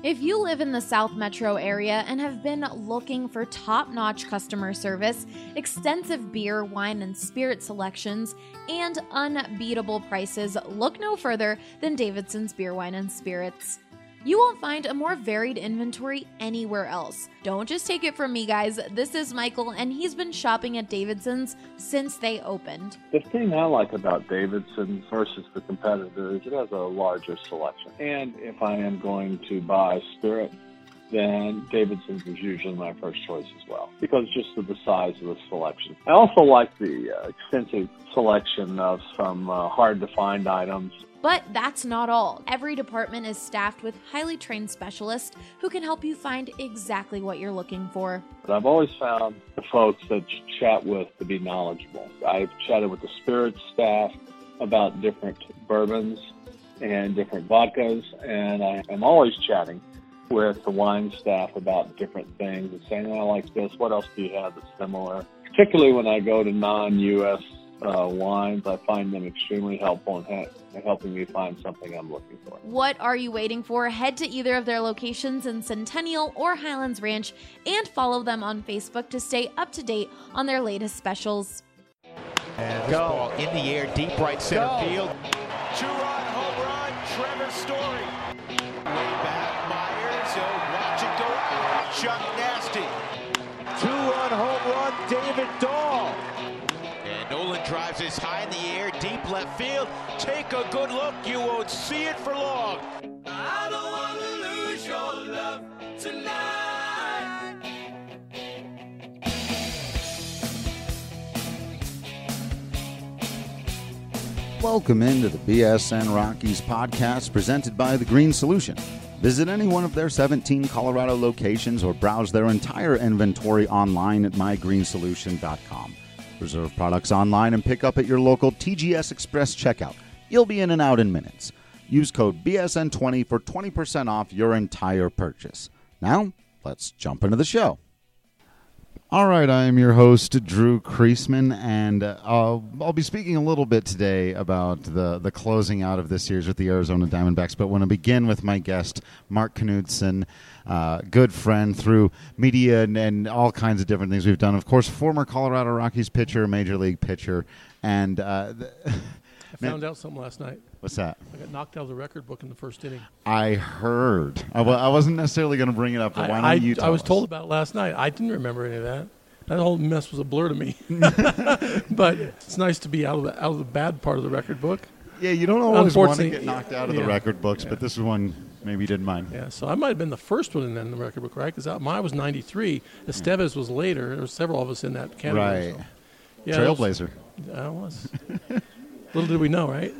If you live in the South Metro area and have been looking for top-notch customer service, extensive beer, wine, and spirit selections, and unbeatable prices, look no further than Davidson's Beer, Wine, and Spirits. You won't find a more varied inventory anywhere else. Don't just take it from me, guys. This is Michael, and he's been shopping at Davidson's since they opened. The thing I like about Davidson's versus the competitor is it has a larger selection. And if I am going to buy spirit, then Davidson's is usually my first choice as well, because just of the size of the selection. I also like the extensive selection of some hard-to-find items. But that's not all. Every department is staffed with highly trained specialists who can help you find exactly what you're looking for. But I've always found the folks that you chat with to be knowledgeable. I've chatted with the spirits staff about different bourbons and different vodkas, and I am always chatting with the wine staff about different things and saying, I like this, what else do you have that's similar? Particularly when I go to non-U.S. wines, I find them extremely helpful in helping me find something I'm looking for. What are you waiting for? Head to either of their locations in Centennial or Highlands Ranch and follow them on Facebook to stay up to date on their latest specials. And this ball in the air, deep right center field. Two-run home run, Trevor Story. Way back, Myers, he'll watch it go out. Chuck Nasty. Two-run home run, David Dahl. And Nolan drives this high in the air, deep left field. Take a good look, you won't see it for long. I don't want to lose your love tonight. Welcome into the BSN Rockies podcast presented by The Green Solution. Visit any one of their 17 Colorado locations or browse their entire inventory online at mygreensolution.com. Reserve products online and pick up at your local TGS Express checkout. You'll be in and out in minutes. Use code BSN20 for 20% off your entire purchase. Now, let's jump into the show. All right, I am your host, Drew Kreisman, and I'll be speaking a little bit today about the closing out of this series with the Arizona Diamondbacks, but want to begin with my guest, Mark Knudsen, good friend through media and all kinds of different things we've done. Of course, former Colorado Rockies pitcher, Major League pitcher, and I found out something last night. What's that? I got knocked out of the record book in the first inning. I heard. I wasn't necessarily going to bring it up, but why don't you tell us? I was told about it last night. I didn't remember any of that. That whole mess was a blur to me. But it's nice to be out of the bad part of the record book. Yeah, you don't always want to get knocked out of the record books, but this is one maybe you didn't mind. Yeah, so I might have been the first one in the record book, right? Because mine was 93. Estevez was later. There were several of us in that category. Right. So. Yeah, Trailblazer. I was. Little did we know, right?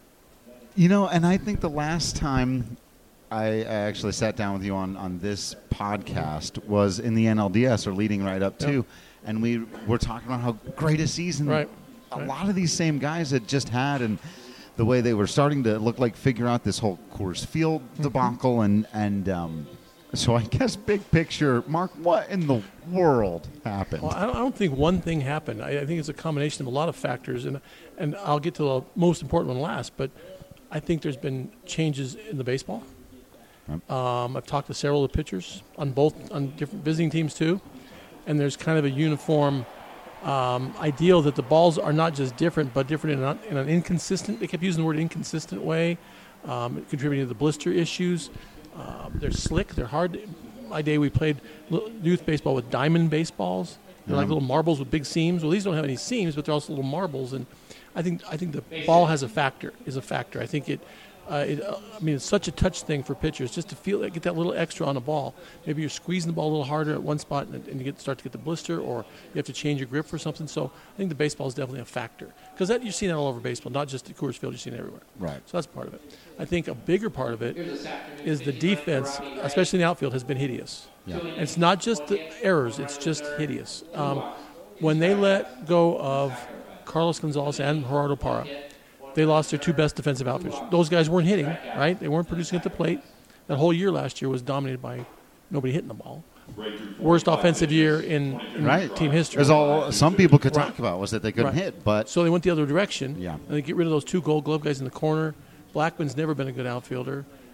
You know, and I think the last time I actually sat down with you on this podcast was in the NLDS, or leading right up to, and we were talking about how great a season a lot of these same guys had just had, and the way they were starting to figure out this whole Coors Field debacle, and so I guess big picture, Mark, what in the world happened? Well, I don't think one thing happened. I think it's a combination of a lot of factors, and I'll get to the most important one last, but I think there's been changes in the baseball. I've talked to several of the pitchers on different visiting teams too, and there's kind of a uniform ideal that the balls are not just different, but different in an inconsistent. They kept using the word inconsistent way, contributing to the blister issues. They're slick. They're hard. My day we played youth baseball with diamond baseballs. They're like little marbles with big seams. Well, these don't have any seams, but they're also little marbles. And I think the ball is a factor. I think it's such a touch thing for pitchers just to get that little extra on a ball. Maybe you're squeezing the ball a little harder at one spot and you start to get the blister, or you have to change your grip for something. So I think the baseball is definitely a factor, because you're seeing that all over baseball, not just at Coors Field. You're seeing it everywhere. Right. So that's part of it. I think a bigger part of it is the defense, especially in the outfield, has been hideous. Yeah. And it's not just the errors; it's just hideous. When they let go of Carlos Gonzalez and Gerardo Parra, they lost their two best defensive outfielders. Those guys weren't hitting, right? They weren't producing at the plate. That whole year last year was dominated by nobody hitting the ball. Worst offensive year in team history. As all some people could talk about was that they couldn't hit, but so they went the other direction. Yeah. And they get rid of those two Gold Glove guys in the corner. Blackman's never been a good outfielder,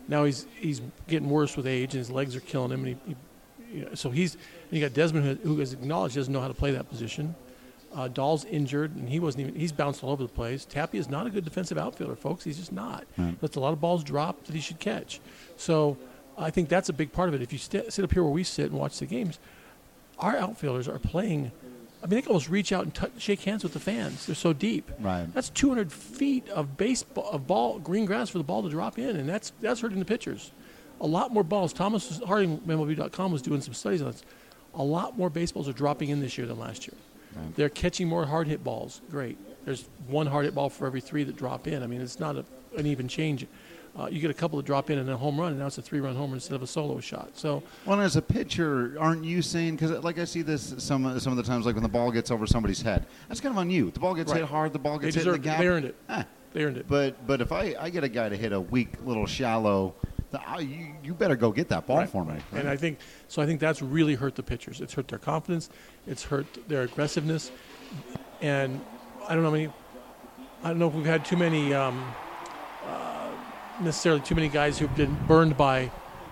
Now he's getting worse with age, and his legs are killing him. And you got Desmond, who has acknowledged he doesn't know how to play that position. Dahl's injured, and he's bounced all over the place. Tappy is not a good defensive outfielder, folks. He's just not. Lets a lot of balls drop that he should catch. So I think that's a big part of it. If you sit up here where we sit and watch the games, our outfielders are playing. I mean, they can almost reach out and shake hands with the fans. They're so deep. Right. That's 200 feet of ball, green grass for the ball to drop in, and that's hurting the pitchers. A lot more balls. Thomas Harding, MLB.com, was doing some studies on this. A lot more baseballs are dropping in this year than last year. Right. They're catching more hard hit balls. Great. There's one hard hit ball for every 3 that drop in. I mean, it's not an even change. You get a couple that drop in and a home run, and now it's a 3-run homer instead of a solo shot. So, well, as a pitcher, aren't you saying, because like I see this some of the times, like when the ball gets over somebody's head, that's kind of on you. The ball gets hit hard, the ball gets hit in the gap. They earned it. They earned it. But if I get a guy to hit a weak little shallow, you better go get that ball for me. Right? And I think that's really hurt the pitchers. It's hurt their confidence. It's hurt their aggressiveness. And I don't know if we've had too many. Necessarily too many guys who've been burned by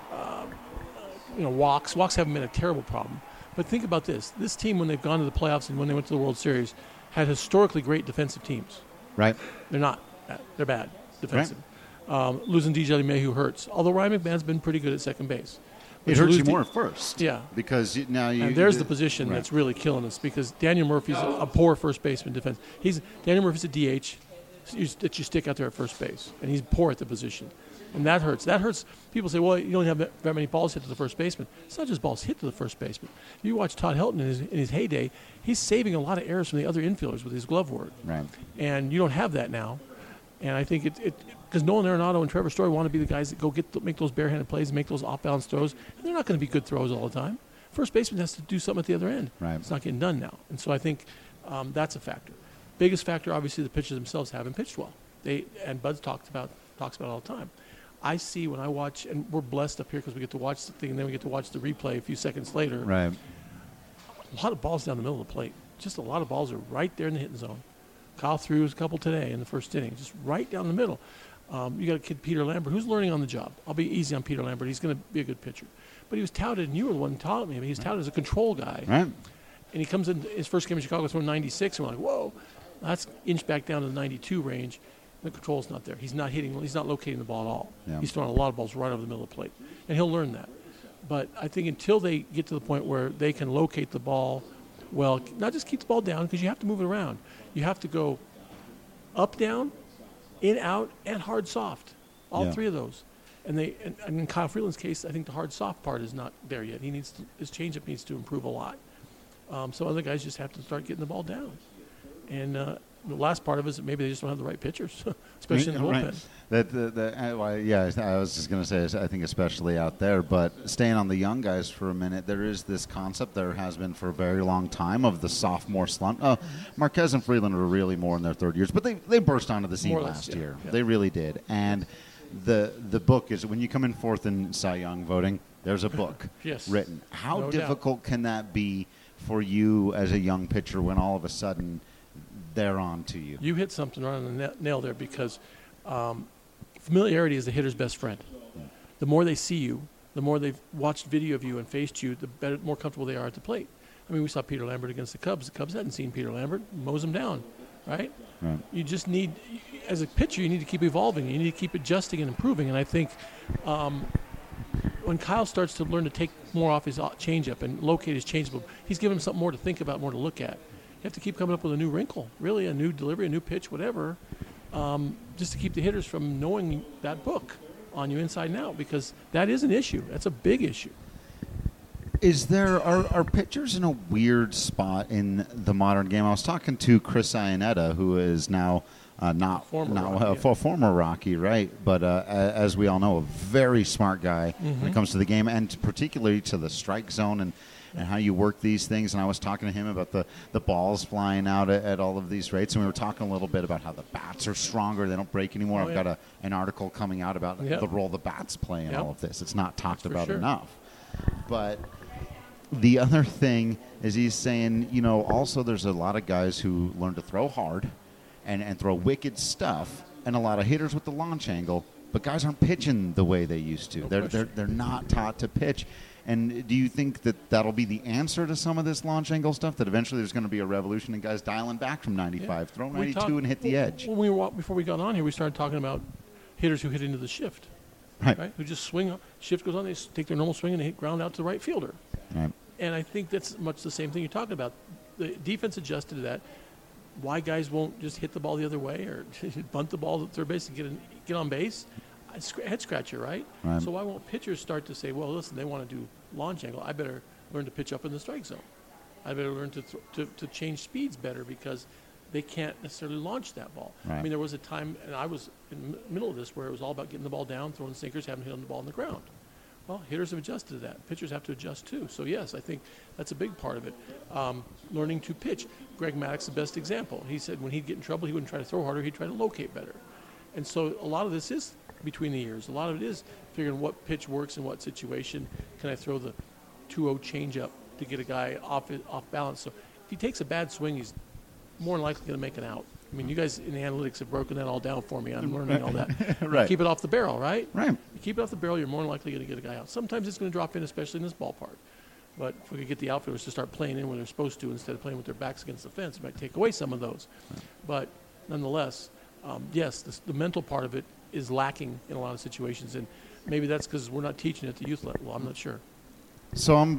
walks. Walks haven't been a terrible problem. But think about this. This team, when they've gone to the playoffs and when they went to the World Series, had historically great defensive teams. Right. They're not. They're bad defensive. Right. Losing DJ LeMahieu hurts, although Ryan McMahon's been pretty good at second base. It hurts you more at first. Yeah. Because now you... And there's the position that's really killing us, because Daniel Murphy's a poor first baseman defense. Daniel Murphy's a DH that you stick out there at first base, and he's poor at the position. And that hurts. That hurts. People say, well, you don't have that many balls hit to the first baseman. It's not just balls hit to the first baseman. If you watch Todd Helton in his heyday, he's saving a lot of errors from the other infielders with his glove work. Right. And you don't have that now. And I think because Nolan Arenado and Trevor Story want to be the guys that go make those barehanded plays and make those off-balance throws. And they're not going to be good throws all the time. First baseman has to do something at the other end. Right. It's not getting done now. And so I think that's a factor. Biggest factor, obviously, the pitchers themselves haven't pitched well. And Bud talks about it all the time. I see when I watch, and we're blessed up here because we get to watch the thing, and then we get to watch the replay a few seconds later. Right. A lot of balls down the middle of the plate. Just a lot of balls are right there in the hitting zone. Kyle threw a couple today in the first inning, just right down the middle. You got a kid, Peter Lambert, who's learning on the job. I'll be easy on Peter Lambert. He's going to be a good pitcher. But he was touted, and you were the one who taught me. I mean, he's touted as a control guy. Right. And he comes in his first game in Chicago, throwing 96, and we're like, whoa. That's inched back down to the 92 range. The control's not there. He's not locating the ball at all. Yeah. He's throwing a lot of balls right over the middle of the plate. And he'll learn that. But I think until they get to the point where they can locate the ball well, not just keep the ball down, because you have to move it around. You have to go up, down, in, out, and hard, soft. All three of those. And in Kyle Freeland's case, I think the hard, soft part is not there yet. His changeup needs to improve a lot. Some other guys just have to start getting the ball down. And the last part of it is that maybe they just don't have the right pitchers, especially in the bullpen. Right. I was just going to say, I think especially out there. But staying on the young guys for a minute, there is this concept, there has been for a very long time, of the sophomore slump. Marquez and Freeland are really more in their third years, but they burst onto the scene last year. Yeah. They really did. And the book is, when you come in fourth in Cy Young voting, there's a book written. How difficult can that be for you as a young pitcher when all of a sudden they're on to you? You hit something right on the nail there, because familiarity is the hitter's best friend. Yeah. The more they see you, the more they've watched video of you and faced you, the more comfortable they are at the plate. I mean, we saw Peter Lambert against the Cubs. The Cubs hadn't seen Peter Lambert, mows him down, right? You just need, as a pitcher, you need to keep evolving. You need to keep adjusting and improving. And I think when Kyle starts to learn to take more off his changeup and locate his changeup, he's giving him something more to think about, more to look at. You have to keep coming up with a new wrinkle, really, a new delivery, a new pitch, whatever, just to keep the hitters from knowing that book on you inside and out, because that is an issue. That's a big issue. Are pitchers in a weird spot in the modern game? I was talking to Chris Iannetta, who is now former Rocky, right? But as we all know, a very smart guy when it comes to the game, and particularly to the strike zone and how you work these things. And I was talking to him about the balls flying out at all of these rates, and we were talking a little bit about how the bats are stronger. They don't break anymore. I've got an article coming out about the role the bats play in all of this. It's not talked about enough. But the other thing is, he's saying, also there's a lot of guys who learn to throw hard and throw wicked stuff, and a lot of hitters with the launch angle but guys aren't pitching the way they used to. They're not taught to pitch. And do you think that that'll be the answer to some of this launch angle stuff, that eventually there's going to be a revolution and guys dialing back from 95, throw 92 and hit the edge? Before we got on here, we started talking about hitters who hit into the shift, right? Who just swing up, shift goes on, they take their normal swing and they hit ground out to the right fielder. Right. And I think that's much the same thing you're talking about. The defense adjusted to that. Why guys won't just hit the ball the other way or bunt the ball to third base and get on base? Head scratcher, right? So why won't pitchers start to say, well, listen, they want to do launch angle. I better learn to pitch up in the strike zone. I better learn to change speeds better because they can't necessarily launch that ball. Right. I mean, there was a time, and I was in the middle of this, where it was all about getting the ball down, throwing sinkers, having hit on the ball on the ground. Well, hitters have adjusted to that. Pitchers have to adjust too. So, yes, I think that's a big part of it. Learning to pitch. Greg Maddux is the best example. He said when he'd get in trouble, he wouldn't try to throw harder. He'd try to locate better. And so a lot of this is between the years. A lot of it is figuring what pitch works in what situation. Can I throw the 2-0 changeup to get a guy off balance? So if he takes a bad swing, he's more than likely going to make an out. I mean, you guys in the analytics have broken that all down for me. I'm learning all that. Right. Keep it off the barrel, right? Right. You keep it off the barrel, you're more than likely going to get a guy out. Sometimes it's going to drop in, especially in this ballpark. But if we could get the outfielders to start playing in when they're supposed to instead of playing with their backs against the fence, it might take away some of those. Right. But nonetheless, yes, the mental part of it is lacking in a lot of situations. And maybe that's because we're not teaching at the youth level. I'm not sure. So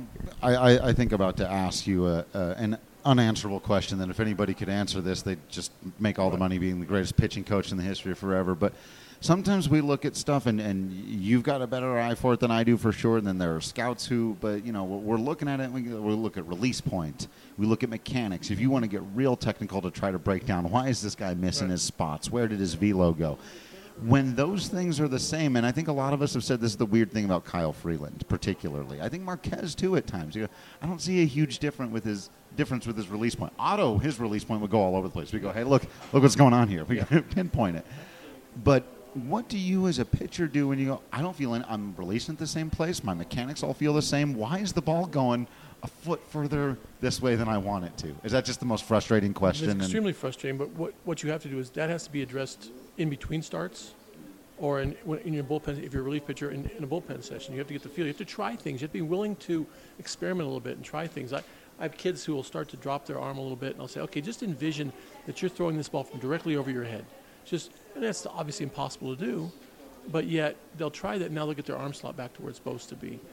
I think about to ask you an unanswerable question that if anybody could answer this, they'd just make all the money being the greatest pitching coach in the history of forever. But sometimes we look at stuff, and you've got a better eye for it than I do for sure. And then there are scouts who, but, you know, we're looking at it, we look at release point. We look at mechanics. If you want to get real technical to try to break down, why is this guy missing his spots? Where did his velo go? When those things are the same, and I think a lot of us have said this is the weird thing about Kyle Freeland, particularly. I think Marquez, too, at times. I don't see a huge difference with his release point. Otto, his release point would go all over the place. We go, hey, look what's going on here. We pinpoint it. But what do you as a pitcher do when you go, I don't feel I'm releasing at the same place. My mechanics all feel the same. Why is the ball going a foot further this way than I want it to? Is that just the most frustrating question? It's extremely frustrating, but what you have to do is that has to be addressed in between starts or in your bullpen. If you're a relief pitcher in a bullpen session, you have to get the feel. You have to try things. You have to be willing to experiment a little bit and try things. I have kids who will start to drop their arm a little bit, and I'll say, okay, just envision that you're throwing this ball from directly over your head. And that's obviously impossible to do, but yet they'll try that, and now they'll get their arm slot back to where it's supposed to be.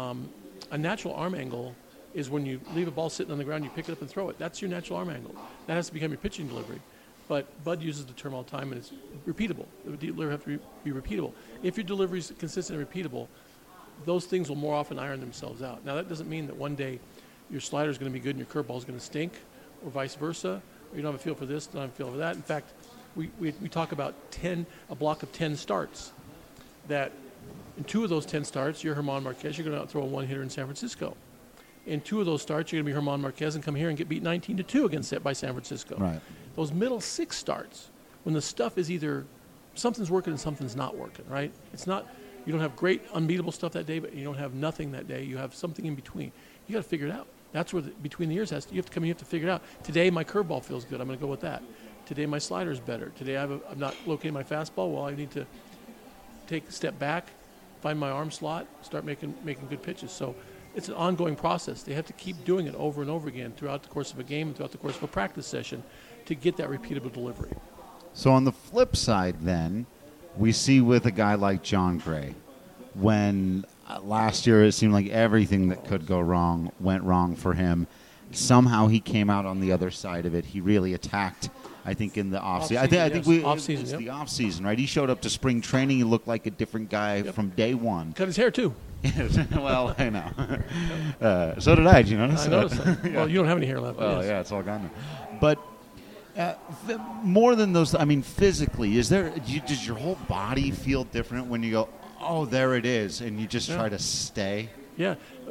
A natural arm angle is when you leave a ball sitting on the ground, you pick it up and throw it. That's your natural arm angle. That has to become your pitching delivery. But Bud uses the term all the time, and it's repeatable. The delivery have to be repeatable. If your delivery is consistent and repeatable, those things will more often iron themselves out. Now, that doesn't mean that one day your slider is going to be good and your curveball is going to stink, or vice versa. Or you don't have a feel for this, don't have a feel for that. In fact, we talk about a block of 10 starts. That in 2 of those 10 starts, you're German Marquez. You're going to outthrow a one-hitter in San Francisco. In 2 of those starts, you're going to be German Marquez and come here and get beat 19-2 against by San Francisco. Right. Those middle 6 starts, when the stuff is either something's working and something's not working, right? It's not, you don't have great unbeatable stuff that day, but you don't have nothing that day. You have something in between. You got to figure it out. That's where between the years you have to come in, you have to figure it out. Today my curveball feels good. I'm going to go with that. Today my slider is better. Today I'm not locating my fastball. Well, I need to take a step back, find my arm slot, start making good pitches. So it's an ongoing process. They have to keep doing it over and over again throughout the course of a game and throughout the course of a practice session to get that repeatable delivery. So on the flip side then, we see with a guy like Jon Gray, when last year it seemed like everything that could go wrong went wrong for him. Somehow he came out on the other side of it. He really attacked, I think, in the offseason. I think it's the offseason, right? He showed up to spring training. He looked like a different guy from day one. Cut his hair, too. Well, I know. So did I. Did you notice? I noticed that. Yeah. Well, you don't have any hair left. Well, yeah, it's all gone now. But more than those, I mean, physically, does your whole body feel different when you go, oh, there it is, and you just try to stay? Yeah.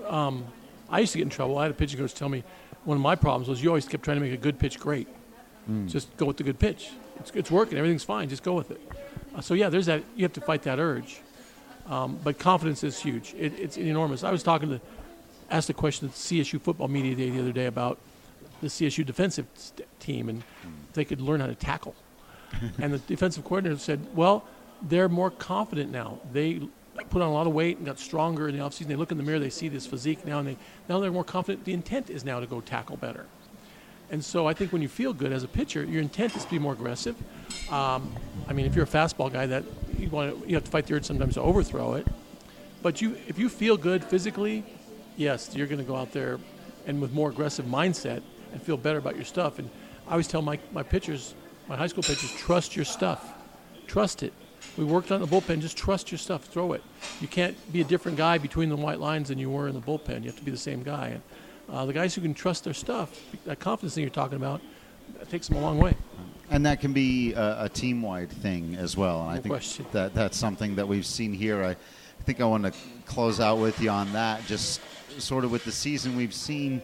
I used to get in trouble. I had a pitching coach tell me one of my problems was you always kept trying to make a good pitch great. Just go with the good pitch. It's working. Everything's fine. Just go with it. So, yeah, there's that. You have to fight that urge. But confidence is huge. It's enormous. I was asked a question at the CSU football media day the other day about the CSU defensive team and if they could learn how to tackle. And the defensive coordinator said, well, they're more confident now. They put on a lot of weight and got stronger in the offseason. They look in the mirror, they see this physique now, and now they're more confident. The intent is now to go tackle better. And so I think when you feel good as a pitcher, your intent is to be more aggressive. I mean, if you're a fastball guy, that you have to fight the urge sometimes to overthrow it. But if you feel good physically, yes, you're going to go out there and with more aggressive mindset and feel better about your stuff. And I always tell my pitchers, my high school pitchers, trust your stuff. Trust it. We worked on the bullpen. Just trust your stuff. Throw it. You can't be a different guy between the white lines than you were in the bullpen. You have to be the same guy. And the guys who can trust their stuff, that confidence thing you're talking about, that takes them a long way. And that can be a team-wide thing as well. And I think that's something that we've seen here. I think I want to close out with you on that, just sort of with the season we've seen.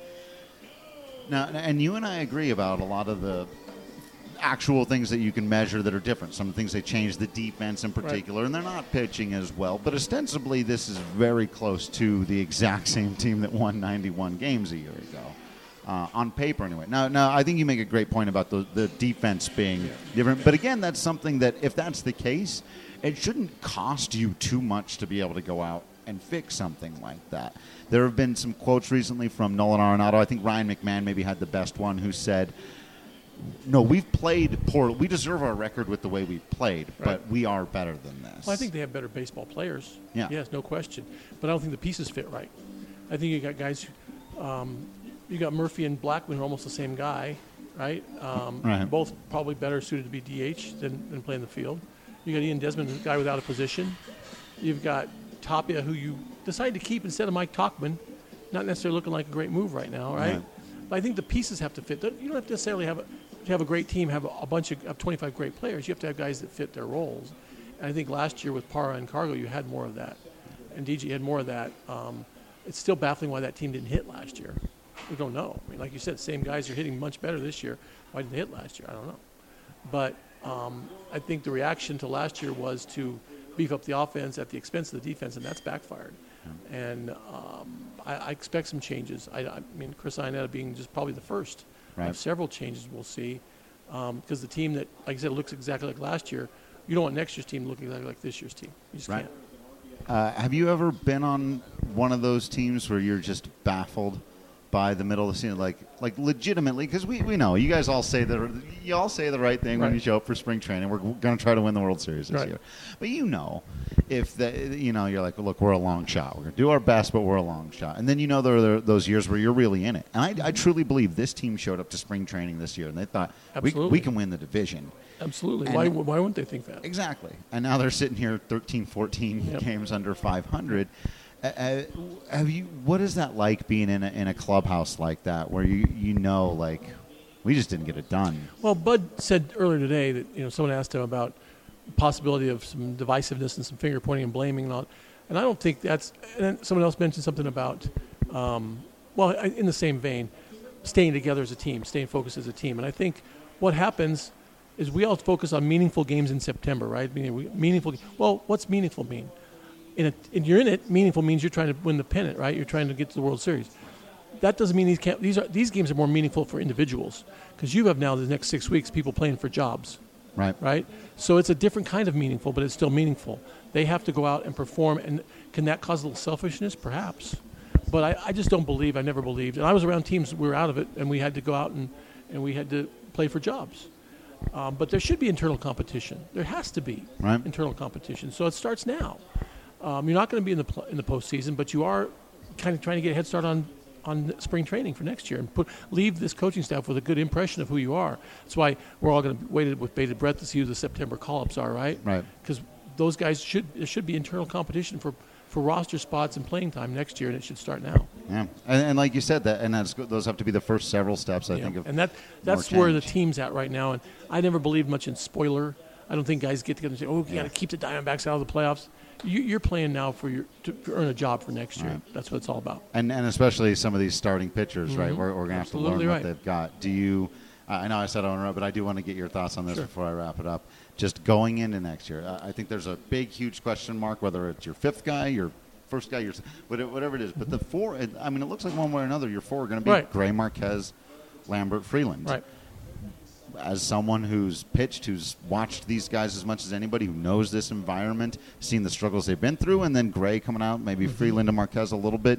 Now, and you and I agree about a lot of the actual things that you can measure that are different. Some things they changed, the defense in particular, right. And they're not pitching as well. But ostensibly, this is very close to the exact same team that won 91 games a year ago, on paper anyway. Now, I think you make a great point about the defense being different. But again, that's something that if that's the case, it shouldn't cost you too much to be able to go out and fix something like that. There have been some quotes recently from Nolan Arenado. I think Ryan McMahon maybe had the best one, who said, no, we've played poor. We deserve our record with the way we've played, but we are better than this. Well, I think they have better baseball players. Yeah. Yes, no question. But I don't think the pieces fit right. I think you got guys, you got Murphy and Blackman who are almost the same guy, right? Right. Both probably better suited to be DH than play in the field. You got Ian Desmond, a guy without a position. You've got Tapia, who you decided to keep instead of Mike Tauchman. Not necessarily looking like a great move right now, right? But I think the pieces have to fit. You don't have to necessarily have a great team, have a bunch of 25 great players. You have to have guys that fit their roles. And I think last year with Parra and Cargo, you had more of that. And DJ had more of that. It's still baffling why that team didn't hit last year. We don't know. I mean, like you said, same guys are hitting much better this year. Why didn't they hit last year? I don't know. But I think the reaction to last year was to beef up the offense at the expense of the defense, and that's backfired. And I expect some changes. I mean, Chris Iannetta being just probably the first of several changes we'll see, because the team that, like I said, looks exactly like last year, you don't want next year's team to look exactly like this year's team. You just can't. Have you ever been on one of those teams where you're just baffled by the middle of the season, like legitimately? Because we know you guys all say the right thing when you show up for spring training. We're going to try to win the World Series this year, but if you're like, look, we're a long shot. We're going to do our best, but we're a long shot. And then there are those years where you're really in it. And I truly believe this team showed up to spring training this year and they thought we can win the division. Absolutely. Why wouldn't they think that? Exactly. And now they're sitting here 13, 14 games under 500. What is that like being in a clubhouse like that, where you know, like, we just didn't get it done? Well, Bud said earlier today that someone asked him about the possibility of some divisiveness and some finger pointing and blaming and all, and I don't think that's. And then someone else mentioned something about, in the same vein, staying together as a team, staying focused as a team, and I think what happens is we all focus on meaningful games in September, right? Meaningful. Well, what's meaningful mean? You're in it. Meaningful means you're trying to win the pennant, right? You're trying to get to the World Series. That doesn't mean these games are more meaningful for individuals, because you have now the next 6 weeks people playing for jobs, right? So it's a different kind of meaningful, but it's still meaningful. They have to go out and perform, and can that cause a little selfishness? Perhaps, but I just don't believe. I never believed, and I was around teams we were out of it, and we had to go out and we had to play for jobs. But there should be internal competition. There has to be internal competition. So it starts now. You're not going to be in the postseason, but you are kind of trying to get a head start on spring training for next year and leave this coaching staff with a good impression of who you are. That's why we're all going to wait with bated breath to see who the September call-ups are, right? Right. Because those guys there should be internal competition for roster spots and playing time next year, and it should start now. Yeah, and like you said, those have to be the first several steps, I think. And that's where the team's at right now. And I never believed much in spoiler. I don't think guys get together and say, you got to keep the Diamondbacks out of the playoffs. You're playing now to earn a job for next year. Right. That's what it's all about. And especially some of these starting pitchers, right? We're going to have to learn what they've got. Do you I know I said I want to interrupt, but I do want to get your thoughts on this before I wrap it up. Just going into next year, I think there's a big, huge question mark, whether it's your fifth guy, your first guy, whatever it is. But the four, it looks like one way or another, your four are going to be Gray, Marquez, Lambert, Freeland. Right. as someone who's pitched, who's watched these guys as much as anybody, who knows this environment, seen the struggles they've been through, and then Gray coming out, maybe Freeland and Marquez a little bit,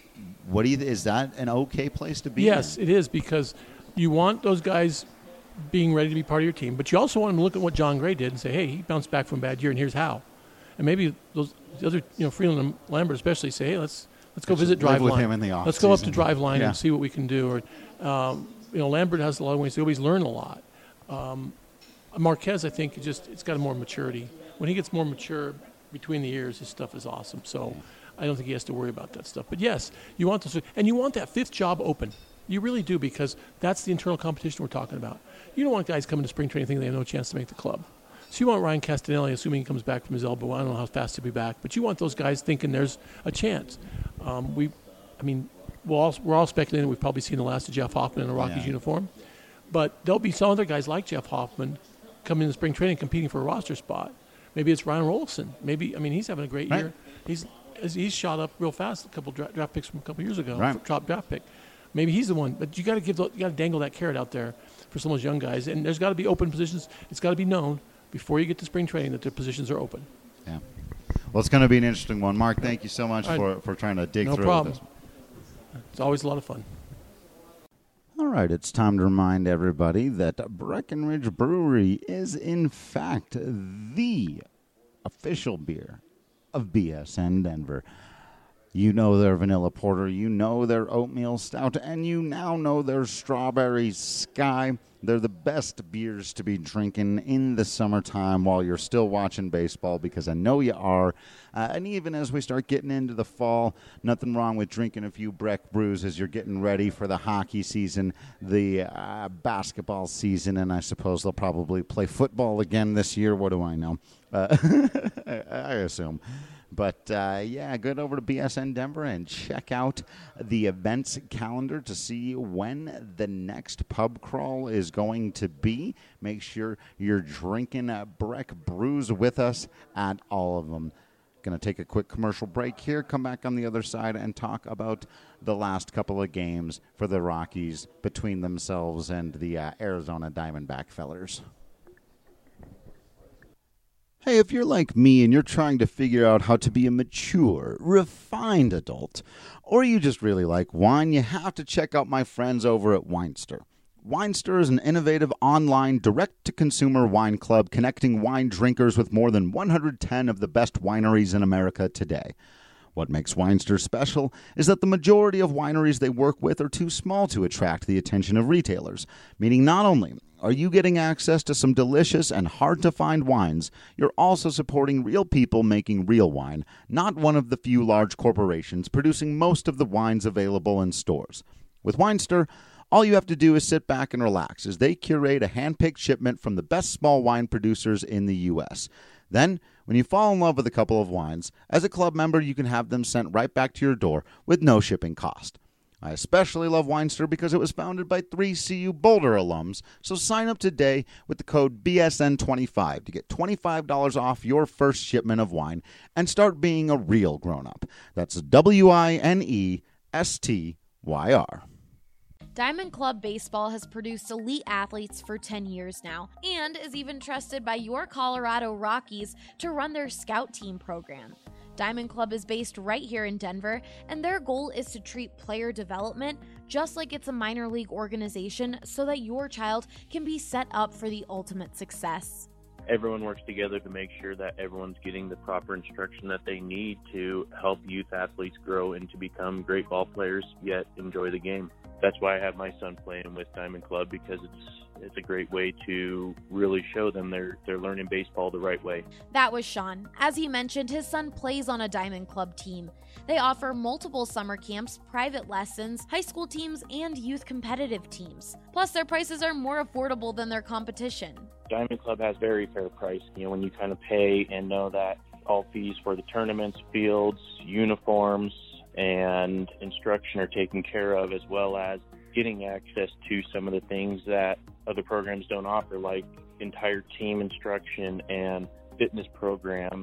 is that an okay place to be? Yes, it is, because you want those guys being ready to be part of your team, but you also want them to look at what John Gray did and say, hey, he bounced back from a bad year, and here's how. And maybe the other, Freeland and Lambert especially, say, hey, let's go visit Driveline. Him in the off let's season. Go up to Driveline and see what we can do. Or, Lambert has a lot of ways to always learn a lot. Marquez, I think, it's got more maturity. When he gets more mature between the years, his stuff is awesome. So I don't think he has to worry about that stuff. But yes, you want this, and you want that fifth job open. You really do, because that's the internal competition we're talking about. You don't want guys coming to spring training thinking they have no chance to make the club. So you want Ryan Castanelli, assuming he comes back from his elbow. I don't know how fast he'll be back, but you want those guys thinking there's a chance. We're all speculating we've probably seen the last of Jeff Hoffman in a Rockies uniform, but there'll be some other guys like Jeff Hoffman coming into spring training competing for a roster spot. Maybe it's Ryan Rolison. He's having a great year. He's shot up real fast. A couple draft picks from a couple years ago, top draft pick. Maybe he's the one, but you got to dangle that carrot out there for some of those young guys, and there's got to be open positions. It's got to be known before you get to spring training that their positions are open. Yeah. Well, it's going to be an interesting one. Mark, thank you so much for trying to dig through this. No problem. It's always a lot of fun. All right, it's time to remind everybody that Breckenridge Brewery is, in fact, the official beer of BSN Denver. You know their vanilla porter, you know their oatmeal stout, and you now know their strawberry sky. They're the best beers to be drinking in the summertime while you're still watching baseball, because I know you are. And even as we start getting into the fall, nothing wrong with drinking a few Breck brews as you're getting ready for the hockey season, the basketball season, and I suppose they'll probably play football again this year. What do I know? I assume. But, get over to BSN Denver and check out the events calendar to see when the next pub crawl is going to be. Make sure you're drinking Breck brews with us at all of them. Going to take a quick commercial break here, come back on the other side, and talk about the last couple of games for the Rockies between themselves and the Arizona Diamondback fellers. Hey, if you're like me and you're trying to figure out how to be a mature, refined adult, or you just really like wine, you have to check out my friends over at Winester. Winester is an innovative online direct-to-consumer wine club connecting wine drinkers with more than 110 of the best wineries in America today. What makes Winester special is that the majority of wineries they work with are too small to attract the attention of retailers, meaning not only are you getting access to some delicious and hard-to-find wines, you're also supporting real people making real wine, not one of the few large corporations producing most of the wines available in stores. With Winester, all you have to do is sit back and relax as they curate a hand-picked shipment from the best small wine producers in the U.S. Then, when you fall in love with a couple of wines, as a club member, you can have them sent right back to your door with no shipping cost. I especially love Winester because it was founded by 3 CU Boulder alums, so sign up today with the code BSN25 to get $25 off your first shipment of wine and start being a real grown-up. That's WINESTYR. Diamond Club Baseball has produced elite athletes for 10 years now and is even trusted by your Colorado Rockies to run their scout team program. Diamond Club is based right here in Denver, and their goal is to treat player development just like it's a minor league organization so that your child can be set up for the ultimate success. Everyone works together to make sure that everyone's getting the proper instruction that they need to help youth athletes grow and to become great ball players, yet enjoy the game. That's why I have my son playing with Diamond Club, because it's a great way to really show them they're learning baseball the right way. That was Sean. As he mentioned, his son plays on a Diamond Club team. They offer multiple summer camps, private lessons, high school teams, and youth competitive teams. Plus, their prices are more affordable than their competition. Diamond Club has very fair price. When you kind of pay and know that all fees for the tournaments, fields, uniforms, and instruction are taken care of, as well as getting access to some of the things that other programs don't offer, like entire team instruction and fitness programs.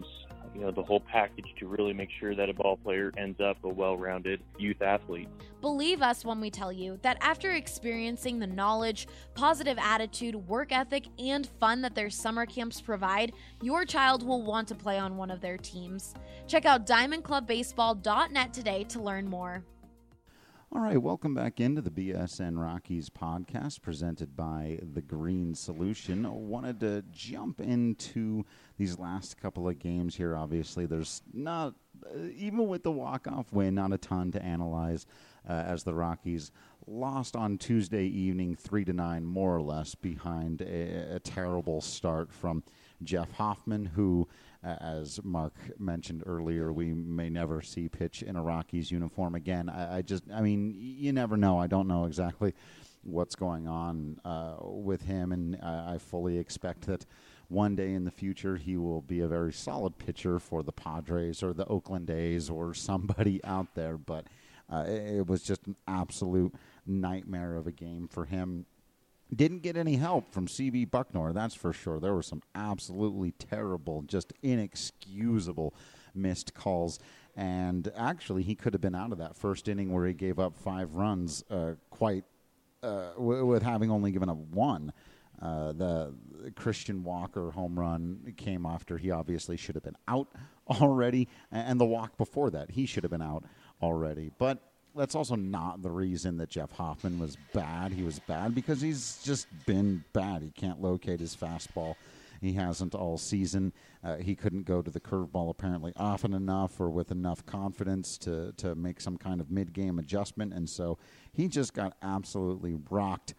the whole package to really make sure that a ball player ends up a well-rounded youth athlete. Believe us when we tell you that after experiencing the knowledge, positive attitude, work ethic, and fun that their summer camps provide, your child will want to play on one of their teams. Check out diamondclubbaseball.net today to learn more. All right, welcome back into the BSN Rockies podcast presented by The Green Solution. I wanted to jump into these last couple of games here. Obviously, there's not, even with the walk-off win, not a ton to analyze as the Rockies lost on Tuesday evening 3-9, more or less, behind a terrible start from Jeff Hoffman, who, as Mark mentioned earlier, we may never see pitch in a Rockies uniform again. I mean, you never know. I don't know exactly what's going on with him, and I fully expect that one day in the future he will be a very solid pitcher for the Padres or the Oakland A's or somebody out there, but it was just an absolute nightmare of a game for him. Didn't get any help from C.B. Bucknor, that's for sure. There were some absolutely terrible, just inexcusable missed calls. And actually, he could have been out of that first inning where he gave up 5 runs with having only given up 1. The Christian Walker home run came after he obviously should have been out already. And the walk before that, he should have been out already. But that's also not the reason that Jeff Hoffman was bad. He was bad because he's just been bad. He can't locate his fastball. He hasn't all season. He couldn't go to the curveball apparently often enough or with enough confidence to make some kind of mid-game adjustment. And so he just got absolutely rocked.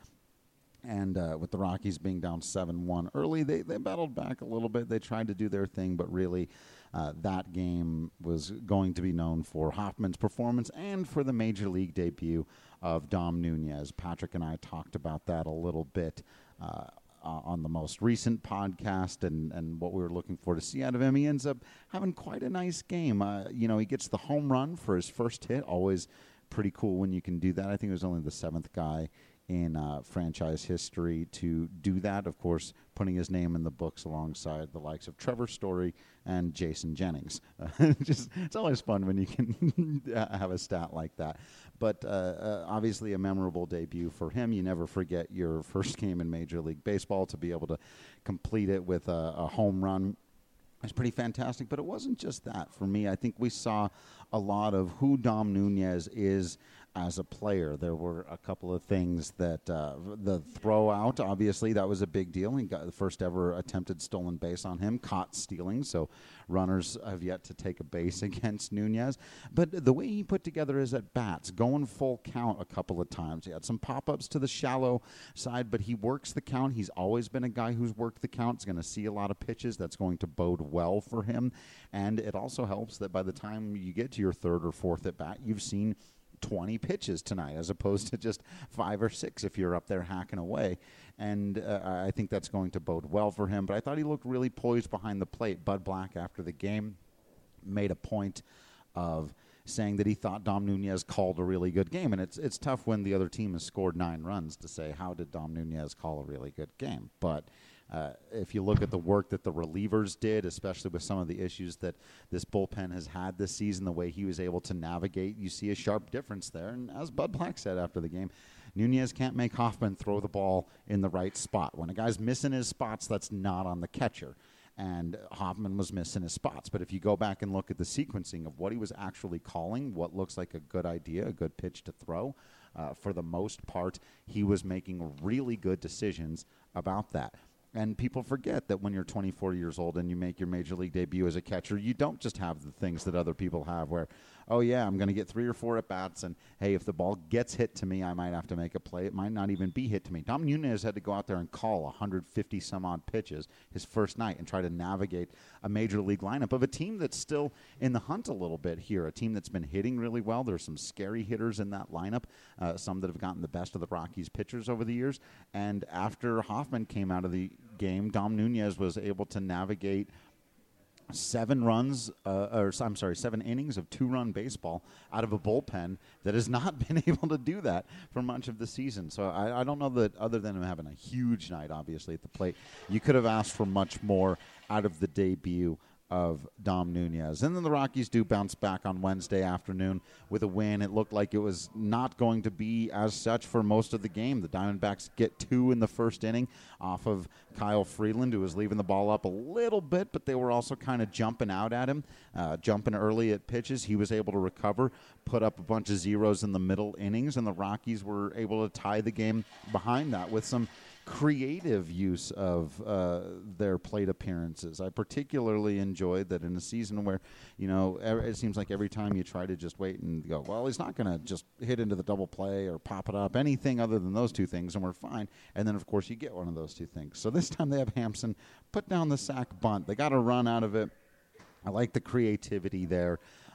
And with the Rockies being down 7-1 early, they battled back a little bit. They tried to do their thing, but really that game was going to be known for Hoffman's performance and for the Major League debut of Dom Nunez. Patrick and I talked about that a little bit on the most recent podcast and what we were looking for to see out of him. He ends up having quite a nice game. He gets the home run for his first hit. Always pretty cool when you can do that. I think it was only the 7th guy in franchise history to do that, of course, putting his name in the books alongside the likes of Trevor Story and Jason Jennings. It's always fun when you can have a stat like that. But obviously a memorable debut for him. You never forget your first game in Major League Baseball. To be able to complete it with a home run is pretty fantastic. But it wasn't just that for me. I think we saw a lot of who Dom Nunez is as a player. There were a couple of things that the throw out, obviously, that was a big deal. He got the first ever attempted stolen base on him, caught stealing, so runners have yet to take a base against Nunez. But the way he put together his at-bats, going full count a couple of times. He had some pop-ups to the shallow side, but he works the count. He's always been a guy who's worked the count. He's going to see a lot of pitches. That's going to bode well for him. And it also helps that by the time you get to your 3rd or 4th at-bat, you've seen 20 pitches tonight as opposed to just 5 or 6 if you're up there hacking away. And I think that's going to bode well for him. But I thought he looked really poised behind the plate. Bud Black, after the game, made a point of saying that he thought Dom Nunez called a really good game. And it's tough when the other team has scored 9 runs to say, how did Dom Nunez call a really good game? But if you look at the work that the relievers did, especially with some of the issues that this bullpen has had this season, the way he was able to navigate, you see a sharp difference there. And as Bud Black said after the game, Nunez can't make Hoffman throw the ball in the right spot. When a guy's missing his spots, that's not on the catcher. And Hoffman was missing his spots. But if you go back and look at the sequencing of what he was actually calling, what looks like a good idea, a good pitch to throw, for the most part, he was making really good decisions about that. And people forget that when you're 24 years old and you make your Major League debut as a catcher, you don't just have the things that other people have where, oh, yeah, I'm going to get 3 or 4 at-bats, and, hey, if the ball gets hit to me, I might have to make a play. It might not even be hit to me. Dom Nunez had to go out there and call 150-some-odd pitches his first night and try to navigate a Major League lineup of a team that's still in the hunt a little bit here, a team that's been hitting really well. There's some scary hitters in that lineup, some that have gotten the best of the Rockies pitchers over the years. And after Hoffman came out of the game, Dom Nunez was able to navigate 7 innings of 2-run baseball out of a bullpen that has not been able to do that for much of the season. So I don't know that other than him having a huge night, obviously, at the plate, you could have asked for much more out of the debut of Dom Nunez. And then the Rockies do bounce back on Wednesday afternoon with a win. It looked like it was not going to be as such for most of the game. The Diamondbacks get 2 in the first inning off of Kyle Freeland, who was leaving the ball up a little bit, but they were also kind of jumping out at him, jumping early at pitches. He was able to recover, put up a bunch of zeros in the middle innings, and the Rockies were able to tie the game behind that with some creative use of their plate appearances. I particularly enjoyed that in a season where, it seems like every time you try to just wait and go, well, he's not going to just hit into the double play or pop it up, anything other than those 2 things, and we're fine. And then, of course, you get one of those 2 things. So this time they have Hampson put down the sac bunt. They got a run out of it. I like the creativity there.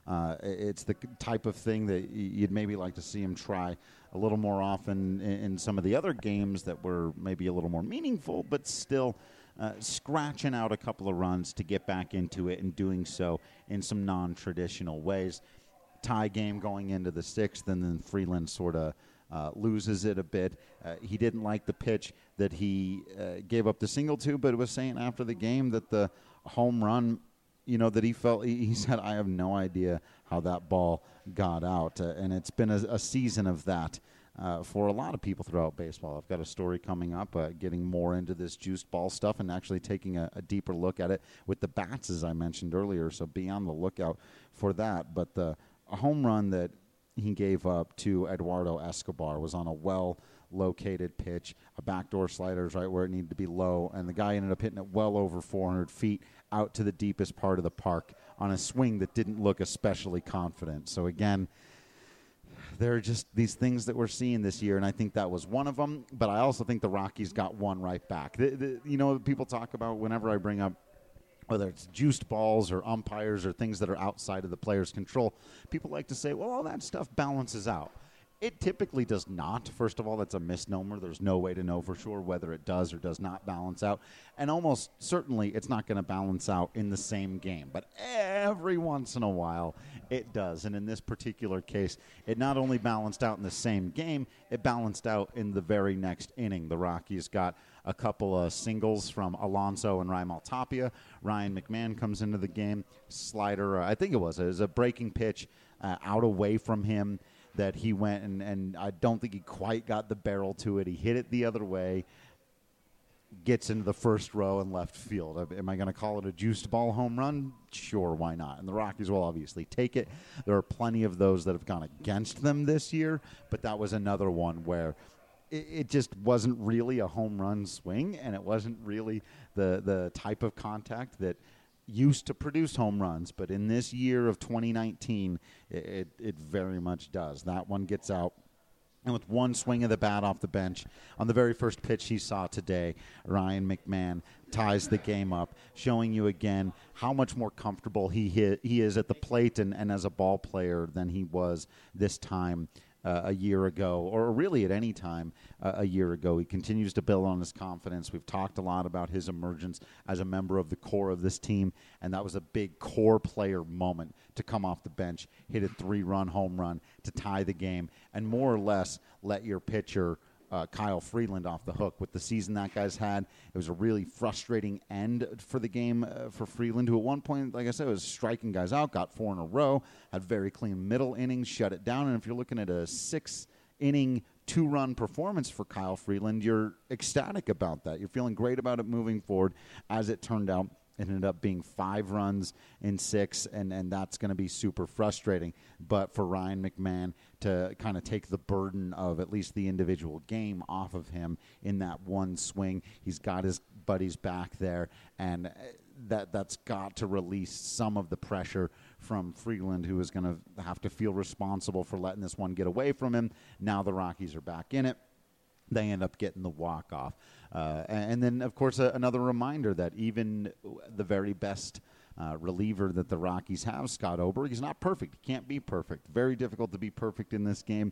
It's the type of thing that you'd maybe like to see him try a little more often in some of the other games that were maybe a little more meaningful, but still scratching out a couple of runs to get back into it and doing so in some non-traditional ways. Tie game going into the 6th, and then Freeland sort of loses it a bit. He didn't like the pitch that he gave up the single to, but was saying after the game that the home run, that he felt, he said, I have no idea how that ball got out. And it's been a season of that for a lot of people throughout baseball. I've got a story coming up getting more into this juiced ball stuff and actually taking a deeper look at it with the bats, as I mentioned earlier. So be on the lookout for that. But the home run that he gave up to Eduardo Escobar was on a well-located pitch. A backdoor slider is right where it needed to be low, and the guy ended up hitting it well over 400 feet out to the deepest part of the park on a swing that didn't look especially confident. So, again, there are just these things that we're seeing this year, and I think that was one of them. But I also think the Rockies got one right back. People talk about whenever I bring up whether it's juiced balls or umpires or things that are outside of the player's control, people like to say, well, all that stuff balances out. It typically does not. First of all, that's a misnomer. There's no way to know for sure whether it does or does not balance out. And almost certainly it's not going to balance out in the same game. But every once in a while it does. And in this particular case, it not only balanced out in the same game, it balanced out in the very next inning. The Rockies got a couple of singles from Alonso and Raimel Tapia. Ryan McMahon comes into the game. Slider, I think it was a breaking pitch out away from him that he went and I don't think he quite got the barrel to it. He hit it the other way, gets into the first row in left field. Am I going to call it a juiced ball home run? Sure, why not? And the Rockies will obviously take it. There are plenty of those that have gone against them this year, but that was another one where it just wasn't really a home run swing, and it wasn't really the type of contact that used to produce home runs, but in this year of 2019, it very much does. That one gets out, and with one swing of the bat off the bench, on the very first pitch he saw today, Ryan McMahon ties the game up, showing you again how much more comfortable he is at the plate and as a ball player than he was this time a year ago, or really at any time a year ago. He continues to build on his confidence. We've talked a lot about his emergence as a member of the core of this team, and that was a big core player moment to come off the bench, hit a 3-run home run to tie the game, and more or less let your pitcher Kyle Freeland off the hook. With the season that guy's had, it was a really frustrating end for the game for Freeland, who at one point, like I said, was striking guys out, got 4 in a row, had very clean middle innings, shut it down. And if you're looking at a 6-inning, 2-run performance for Kyle Freeland, you're ecstatic about that. You're feeling great about it moving forward. As it turned out, it ended up being 5 runs in 6, and that's going to be super frustrating. But for Ryan McMahon to kind of take the burden of at least the individual game off of him in that one swing, he's got his buddies back there, and that's got to release some of the pressure from Freeland, who is going to have to feel responsible for letting this one get away from him. Now the Rockies are back in it. They end up getting the walk-off. And then, of course, another reminder that even the very best reliever that the Rockies have, Scott Oberg, he's not perfect. He can't be perfect. Very difficult to be perfect in this game.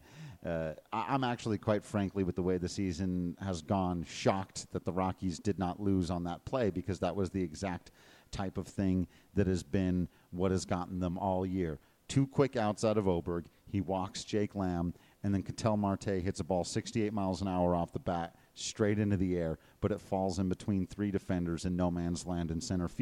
I'm actually, quite frankly, with the way the season has gone, shocked that the Rockies did not lose on that play, because that was the exact type of thing that has been what has gotten them all year. 2 quick outs out of Oberg. He walks Jake Lamb, and then Ketel Marte hits a ball 68 miles an hour off the bat, straight into the air, but it falls in between 3 defenders in no man's land in center field.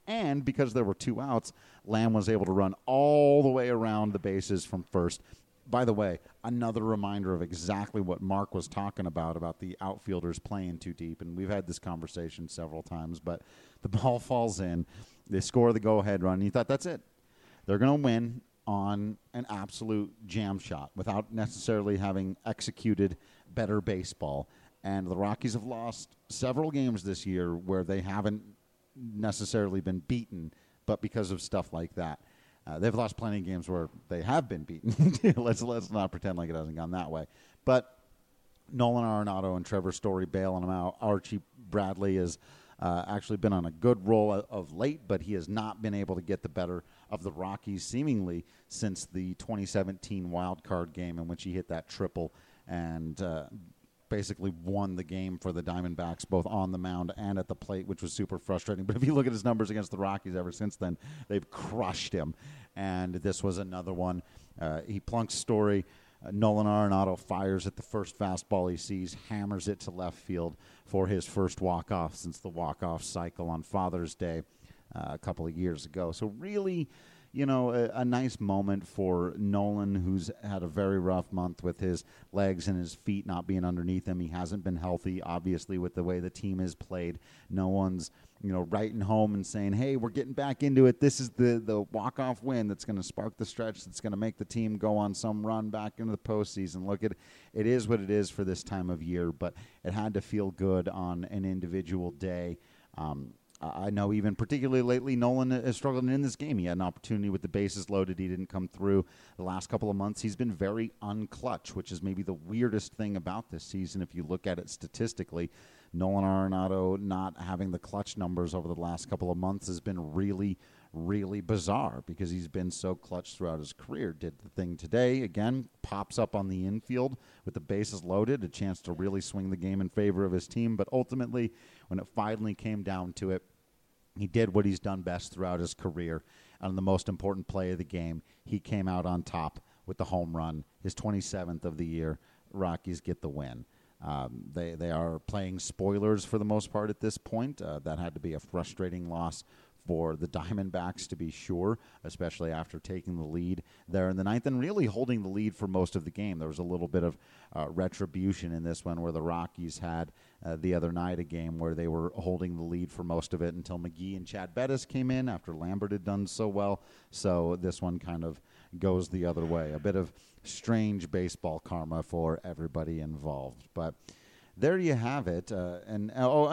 And because there were 2 outs, Lamb was able to run all the way around the bases from first. By the way, another reminder of exactly what Mark was talking about the outfielders playing too deep. And we've had this conversation several times, but the ball falls in. They score the go-ahead run. And you thought, that's it. They're going to win on an absolute jam shot without necessarily having executed better baseball. And the Rockies have lost several games this year where they haven't necessarily been beaten, but because of stuff like that. They've lost plenty of games where they have been beaten. Let's not pretend like it hasn't gone that way. But Nolan Arenado and Trevor Story bailing them out. Archie Bradley has actually been on a good roll of late, but he has not been able to get the better of the Rockies seemingly since the 2017 wild card game in which he hit that triple and basically won the game for the Diamondbacks, both on the mound and at the plate, which was super frustrating. But if you look at his numbers against the Rockies ever since then, they've crushed him. And this was another one. He plunks Story. Nolan Arenado fires at the first fastball he sees, hammers it to left field for his first walk-off since the walk-off cycle on Father's Day a couple of years ago. So really, a nice moment for Nolan, who's had a very rough month with his legs and his feet not being underneath him. He hasn't been healthy, obviously, with the way the team is played. No one's, writing home and saying, hey, we're getting back into it. This is the walk-off win that's going to spark the stretch that's going to make the team go on some run back into the postseason. Look, it is what it is for this time of year, but it had to feel good on an individual day. I know even particularly lately, Nolan has struggled in this game. He had an opportunity with the bases loaded. He didn't come through. The last couple of months, he's been very unclutch, which is maybe the weirdest thing about this season if you look at it statistically. Nolan Arenado not having the clutch numbers over the last couple of months has been really, really bizarre because he's been so clutch throughout his career. Did the thing today, again, pops up on the infield with the bases loaded, a chance to really swing the game in favor of his team. But ultimately, when it finally came down to it, he did what he's done best throughout his career. On the most important play of the game, he came out on top with the home run, his 27th of the year. Rockies get the win. They are playing spoilers for the most part at this point. That had to be a frustrating loss for the Diamondbacks, to be sure, especially after taking the lead there in the ninth and really holding the lead for most of the game. There was a little bit of retribution in this one where the Rockies had the other night a game where they were holding the lead for most of it until McGee and Chad Bettis came in after Lambert had done so well. So this one kind of goes the other way. A bit of strange baseball karma for everybody involved. But there you have it. And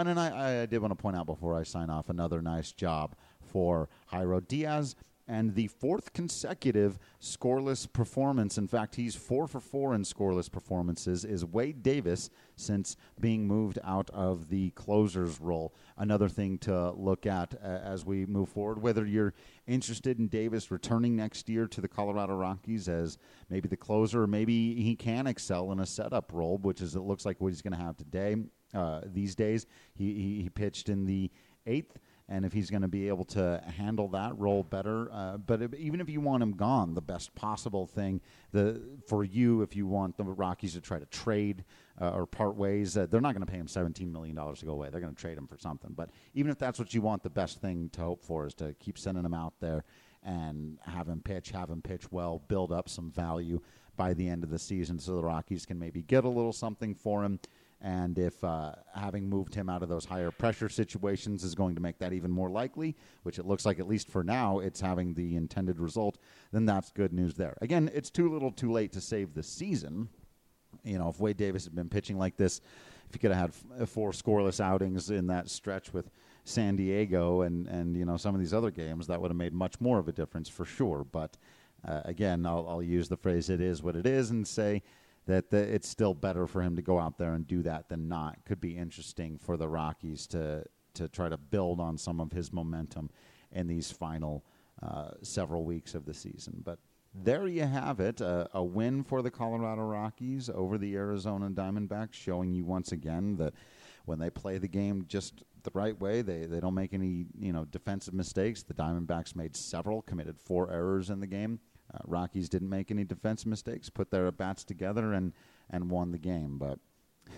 I did want to point out before I sign off, another nice job for Jairo Diaz and the 4th consecutive scoreless performance. In fact, he's 4 for 4 in scoreless performances, is Wade Davis since being moved out of the closer's role. Another thing to look at as we move forward, whether you're interested in Davis returning next year to the Colorado Rockies as maybe the closer, or maybe he can excel in a setup role, which is, it looks like what he's going to have today. These days, he pitched in the 8th. And if he's going to be able to handle that role better, even if you want him gone, the best possible thing for you, if you want the Rockies to try to trade or part ways, they're not going to pay him $17 million to go away. They're going to trade him for something. But even if that's what you want, the best thing to hope for is to keep sending him out there and have him pitch well, build up some value by the end of the season so the Rockies can maybe get a little something for him. And if having moved him out of those higher pressure situations is going to make that even more likely, which it looks like at least for now it's having the intended result, then that's good news there. Again, it's too little too late to save the season. If Wade Davis had been pitching like this, if he could have had 4 scoreless outings in that stretch with San Diego and some of these other games, that would have made much more of a difference for sure. But again, I'll use the phrase "it is what it is" and say that it's still better for him to go out there and do that than not. Could be interesting for the Rockies to try to build on some of his momentum in these final several weeks of the season. But there you have it, a win for the Colorado Rockies over the Arizona Diamondbacks, showing you once again that when they play the game just the right way, they don't make any defensive mistakes. The Diamondbacks made several, committed 4 errors in the game. Rockies didn't make any defense mistakes, put their at-bats together, and won the game. But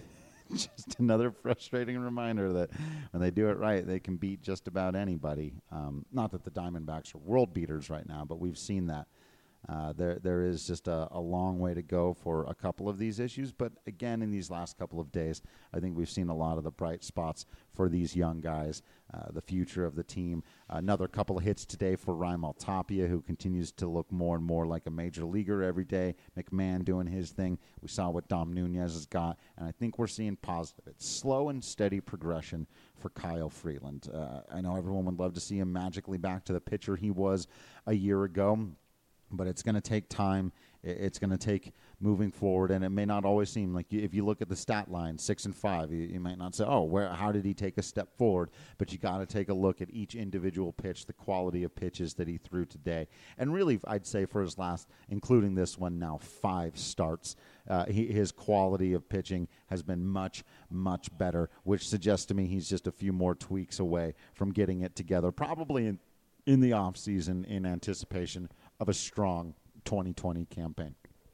Just another frustrating reminder that when they do it right, they can beat just about anybody. Not that the Diamondbacks are world beaters right now, but we've seen that. There is just a long way to go for a couple of these issues. But again, in these last couple of days, I think we've seen a lot of the bright spots for these young guys, the future of the team. Another couple of hits today for Raimel Tapia, who continues to look more and more like a major leaguer every day. McMahon doing his thing. We saw what Dom Nunez has got, and I think we're seeing positive. It's slow and steady progression for Kyle Freeland. I know everyone would love to see him magically back to the pitcher he was a year ago, but it's going to take time. It's going to take moving forward, and it may not always seem like if you look at the stat line, 6 and 5, you might not say, how did he take a step forward? But you got to take a look at each individual pitch, the quality of pitches that he threw today. And really, I'd say for his last, including this one now, 5 starts, his quality of pitching has been much, much better, which suggests to me he's just a few more tweaks away from getting it together, probably in the offseason in anticipation of a strong 2020 campaign.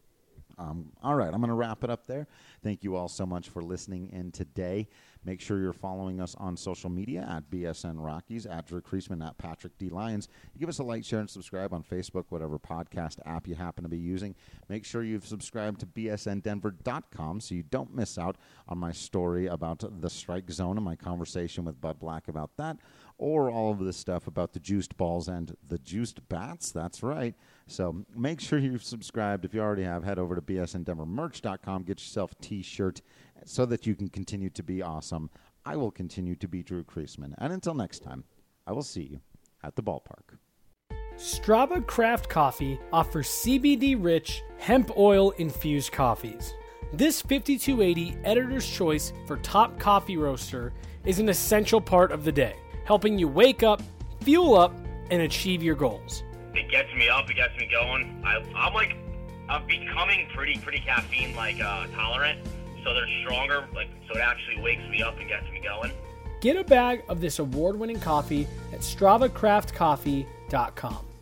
All right, I'm going to wrap it up there. Thank you all so much for listening in today. Make sure you're following us on social media at BSN Rockies, at Drew Creasman, at Patrick D. Lyons. You give us a like, share, and subscribe on Facebook, whatever podcast app you happen to be using. Make sure you've subscribed to bsndenver.com so you don't miss out on my story about the strike zone and my conversation with Bud Black about that, or all of this stuff about the juiced balls and the juiced bats. That's right. So make sure you've subscribed. If you already have, head over to bsndenvermerch.com. Get yourself a T-shirt so that you can continue to be awesome. I will continue to be Drew Creasman. And until next time, I will see you at the ballpark. Strava Craft Coffee offers CBD-rich, hemp oil-infused coffees. This 5280 Editor's Choice for Top Coffee Roaster is an essential part of the day, helping you wake up, fuel up, and achieve your goals. It gets me up, it gets me going. I'm becoming pretty caffeine tolerant, so they're stronger, so it actually wakes me up and gets me going. Get a bag of this award-winning coffee at StravaCraftCoffee.com.